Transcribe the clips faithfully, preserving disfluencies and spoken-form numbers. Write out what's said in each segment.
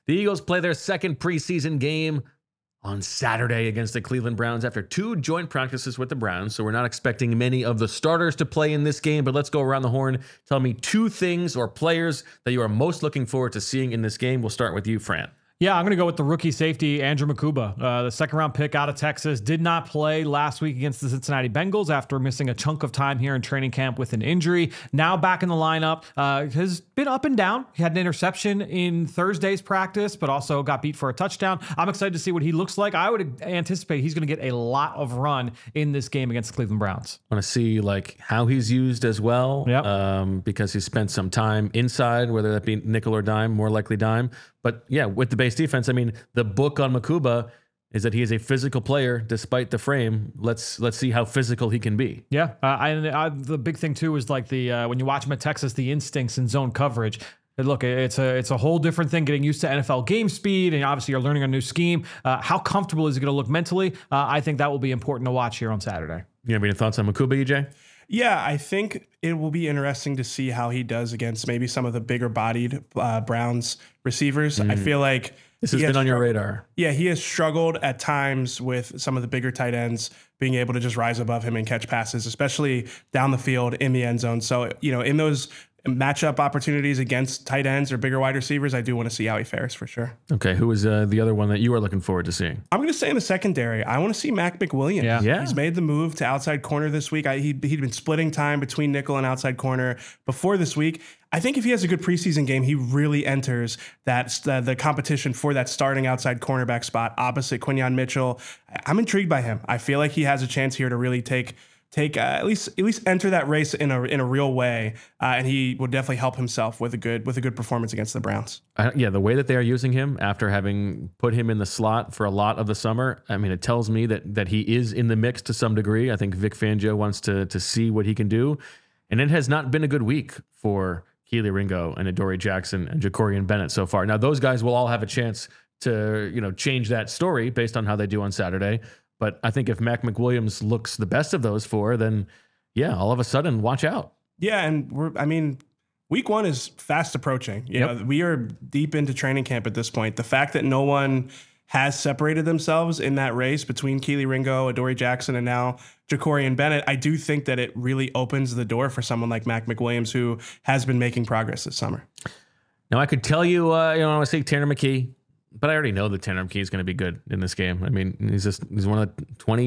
The Eagles play their second preseason game on Saturday against the Cleveland Browns after two joint practices with the Browns. So we're not expecting many of the starters to play in this game, but let's go around the horn. Tell me two things or players that you are most looking forward to seeing in this game. We'll start with you, Fran. Yeah, I'm going to go with the rookie safety, Andrew Mukuba, uh, the second round pick out of Texas. Did not play last week against the Cincinnati Bengals after missing a chunk of time here in training camp with an injury. Now back in the lineup. Uh, has been up and down. He had an interception in Thursday's practice, but also got beat for a touchdown. I'm excited to see what he looks like. I would anticipate he's going to get a lot of run in this game against the Cleveland Browns. I want to see like how he's used as well, yep. um, because he spent some time inside, whether that be nickel or dime, more likely dime. But yeah, with the base defense, I mean, the book on Mukuba is that he is a physical player despite the frame. Let's let's see how physical he can be. Yeah, uh, I, I, the big thing too is like the uh, when you watch him at Texas, the instincts and zone coverage. And look, it's a it's a whole different thing getting used to N F L game speed, and obviously you're learning a new scheme. Uh, how comfortable is he going to look mentally? Uh, I think that will be important to watch here on Saturday. You have any thoughts on Mukuba, E J? Yeah, I think it will be interesting to see how he does against maybe some of the bigger bodied uh, Browns receivers. Mm. I feel like this has been on your radar. Yeah, he has struggled at times with some of the bigger tight ends being able to just rise above him and catch passes, especially down the field in the end zone. So, you know, in those matchup opportunities against tight ends or bigger wide receivers, I do want to see how he fares for sure. Okay, who is uh, the other one that you are looking forward to seeing? I'm going to say in the secondary, I want to see Mac McWilliams. Yeah. yeah. He's made the move to outside corner this week. I, he, he'd been splitting time between nickel and outside corner before this week. I think if he has a good preseason game, he really enters that uh, the competition for that starting outside cornerback spot opposite Quinyon Mitchell. I'm intrigued by him. I feel like he has a chance here to really take Take uh, at least at least enter that race in a in a real way, uh, and he will definitely help himself with a good with a good performance against the Browns. Uh, yeah, the way that they are using him after having put him in the slot for a lot of the summer, I mean, it tells me that that he is in the mix to some degree. I think Vic Fangio wants to to see what he can do, and it has not been a good week for Kelee Ringo and Adoree Jackson and Jacorian Bennett so far. Now, those guys will all have a chance to you know change that story based on how they do on Saturday. But I think if Mac McWilliams looks the best of those four, then yeah, all of a sudden, watch out. Yeah, and we're I mean, week one is fast approaching. You yep. know, we are deep into training camp at this point. The fact that no one has separated themselves in that race between Kelee Ringo, Adoree Jackson, and now Jacorian Bennett, I do think that it really opens the door for someone like Mac McWilliams, who has been making progress this summer. Now, I could tell you, uh, you know, I want to say Tanner McKee. But I already know that Tanner McKee is going to be good in this game. I mean, he's just he's one of the twenty,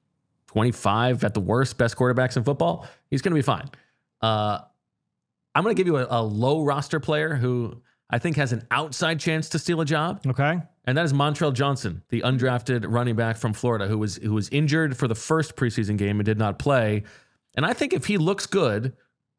twenty-five at the worst best quarterbacks in football. He's going to be fine. Uh, I'm going to give you a, a low roster player who I think has an outside chance to steal a job. Okay. And that is Montrell Johnson, the undrafted running back from Florida, who was who was injured for the first preseason game and did not play. And I think if he looks good,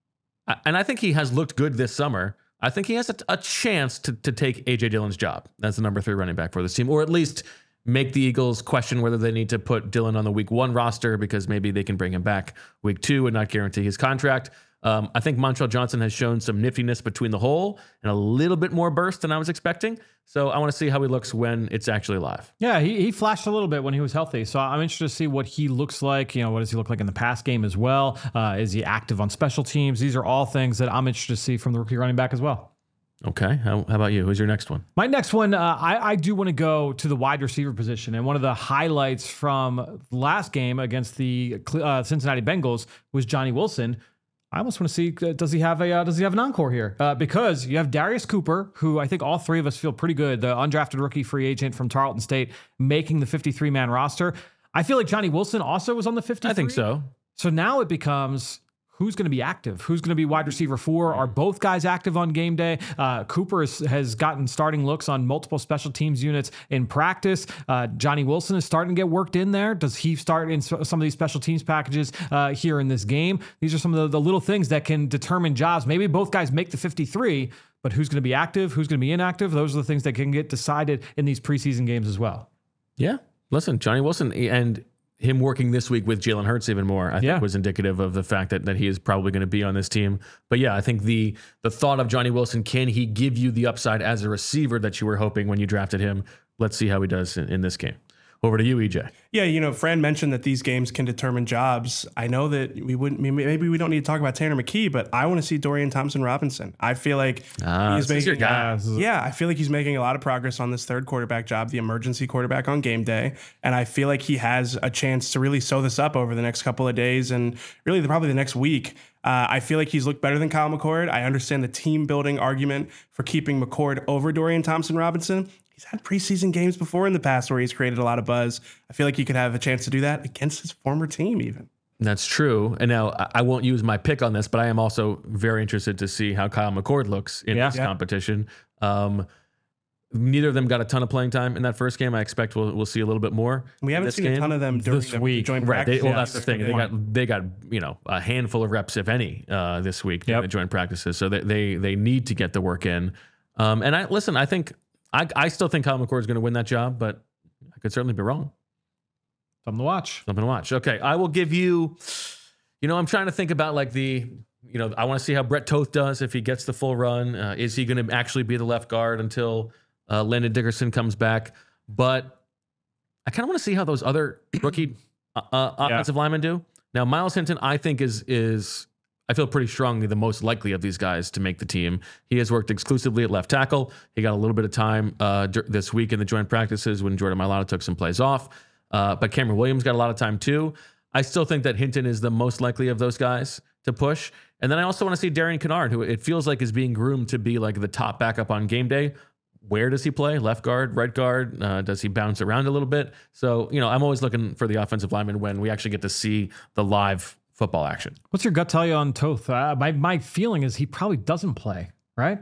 and I think he has looked good this summer, I think he has a, a chance to, to take A J Dillon's job as the number three running back for this team, or at least make the Eagles question whether they need to put Dillon on the week one roster because maybe they can bring him back week two and not guarantee his contract. Um, I think Montrell Johnson has shown some niftiness between the hole and a little bit more burst than I was expecting. So I want to see how he looks when it's actually live. Yeah, he, he flashed a little bit when he was healthy. So I'm interested to see what he looks like. You know, what does he look like in the pass game as well? Uh, is he active on special teams? These are all things that I'm interested to see from the rookie running back as well. Okay. How, how about you? Who's your next one? My next one, uh, I, I do want to go to the wide receiver position. And one of the highlights from last game against the uh, Cincinnati Bengals was Johnny Wilson. I almost want to see, uh, does he have a uh, does he have an encore here? Uh, because you have Darius Cooper, who I think all three of us feel pretty good, the undrafted rookie free agent from Tarleton State, making the fifty-three man roster. I feel like Johnny Wilson also was on the fifty-three. I think so. So now it becomes, who's going to be active? Who's going to be wide receiver four? Are both guys active on game day? Uh, Cooper is, has gotten starting looks on multiple special teams units in practice. Uh, Johnny Wilson is starting to get worked in there. Does he start in some of these special teams packages uh, here in this game? These are some of the, the little things that can determine jobs. Maybe both guys make the fifty-three, but who's going to be active? Who's going to be inactive? Those are the things that can get decided in these preseason games as well. Yeah. Listen, Johnny Wilson and him working this week with Jalen Hurts even more, I think, yeah. was indicative of the fact that, that he is probably going to be on this team. But yeah, I think the the thought of Johnny Wilson, can he give you the upside as a receiver that you were hoping when you drafted him? Let's see how he does in, in this game. Over to you, E J. Yeah, you know, Fran mentioned that these games can determine jobs. I know that we wouldn't, maybe we don't need to talk about Tanner McKee, but I want to see Dorian Thompson-Robinson. I feel like Ah, he's this is your making, guy. yeah, I feel like he's making a lot of progress on this third quarterback job, the emergency quarterback on game day. And I feel like he has a chance to really sew this up over the next couple of days and really the, probably the next week. Uh, I feel like he's looked better than Kyle McCord. I understand the team building argument for keeping McCord over Dorian Thompson-Robinson. He's had preseason games before in the past where he's created a lot of buzz. I feel like he could have a chance to do that against his former team even. That's true. And now I- I won't use my pick on this, but I am also very interested to see how Kyle McCord looks in Yeah. this Yeah. competition. Um, neither of them got a ton of playing time in that first game. I expect we'll, we'll see a little bit more. We haven't this seen game. a ton of them during This the, the week. joint Right. They, practice. well, Yeah. that's the thing. They got they got you know a handful of reps, if any, uh, this week during Yep. the joint practices. So they, they they need to get the work in. Um, and I listen. I think I I still think Kyle McCord is going to win that job, but I could certainly be wrong. Something to watch. Something to watch. Okay, I will give you. You know, I'm trying to think about like the. You know, I want to see how Brett Toth does if he gets the full run. Uh, is he going to actually be the left guard until uh, Landon Dickerson comes back? But I kind of want to see how those other rookie uh, uh, offensive linemen do. Now, Miles Hinton, I think is is I feel pretty strongly the most likely of these guys to make the team. He has worked exclusively at left tackle. He got a little bit of time uh, dur- this week in the joint practices when Jordan Mailata took some plays off. Uh, but Cameron Williams got a lot of time too. I still think that Hinton is the most likely of those guys to push. And then I also want to see Darian Kennard, who it feels like is being groomed to be like the top backup on game day. Where does he play? Left guard, right guard? Uh, does he bounce around a little bit? So, you know, I'm always looking for the offensive lineman when we actually get to see the live football action. What's your gut tell you on Toth? Uh, my my feeling is he probably doesn't play, right?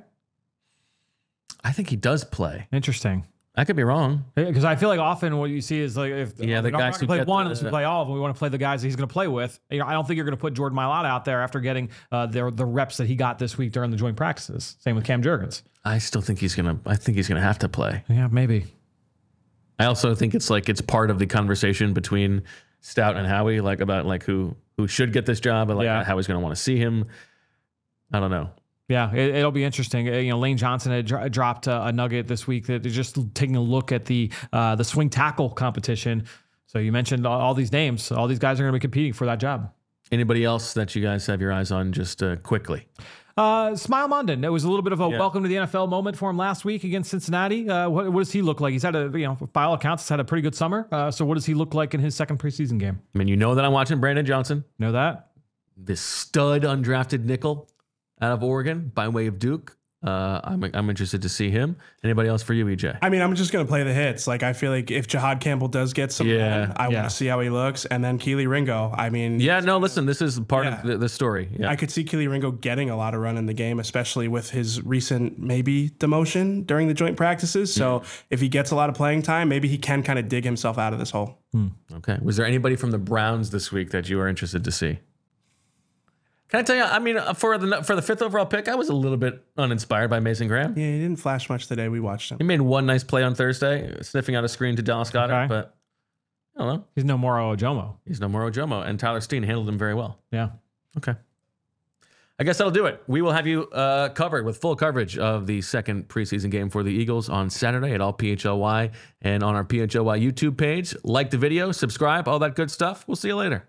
I think he does play. Interesting. I could be wrong. Because I feel like often what you see is like if Yeah, the we're not guys gonna who play get one the- unless we play all of them. We want to play the guys that he's going to play with. You know, I don't think you're going to put Jordan Mailata out there after getting uh, the the reps that he got this week during the joint practices. Same with Cam Jurgens. I still think he's gonna. I think he's gonna have to play. Yeah, maybe. I also think it's like it's part of the conversation between Stout and Howie, like about like who who should get this job, and like Yeah. Howie's gonna want to see him. I don't know. Yeah, it, it'll be interesting. Uh, You know, Lane Johnson had dro- dropped a, a nugget this week that they're just taking a look at the uh, the swing tackle competition. So you mentioned all, all these names. All these guys are going to be competing for that job. Anybody else that you guys have your eyes on, just uh, quickly? Uh, Smile Mondon. It was a little bit of a Yeah. welcome to the N F L moment for him last week against Cincinnati. Uh, what, what does he look like? He's had a, you know, by all accounts, he's had a pretty good summer. Uh, so what does he look like in his second preseason game? I mean, you know that I'm watching Brandon Johnson, Know that? this stud undrafted nickel out of Oregon by way of Duke. Uh, I'm I'm interested to see him. Anybody else for you, E J? I mean, I'm just going to play the hits. Like, I feel like if Jahad Campbell does get some, Yeah, run, I yeah. want to see how he looks. And then Keely Ringo. I mean, Yeah, no, listen, this is part Yeah. of the, the story. Yeah. I could see Keely Ringo getting a lot of run in the game, especially with his recent maybe demotion during the joint practices. So if he gets a lot of playing time, maybe he can kind of dig himself out of this hole. Okay. Was there anybody from the Browns this week that you were interested to see? Can I tell you? I mean, uh, for the for the fifth overall pick, I was a little bit uninspired by Mason Graham. Yeah, he didn't flash much today. We watched him. He made one nice play on Thursday, sniffing out a screen to Dallas Goedert, Okay. but I don't know. He's no more Ojomo. He's no more Ojomo, and Tyler Steen handled him very well. Yeah. Okay. I guess that'll do it. We will have you uh, covered with full coverage of the second preseason game for the Eagles on Saturday at all P H L Y and on our P H L Y YouTube page. Like the video, subscribe, all that good stuff. We'll see you later.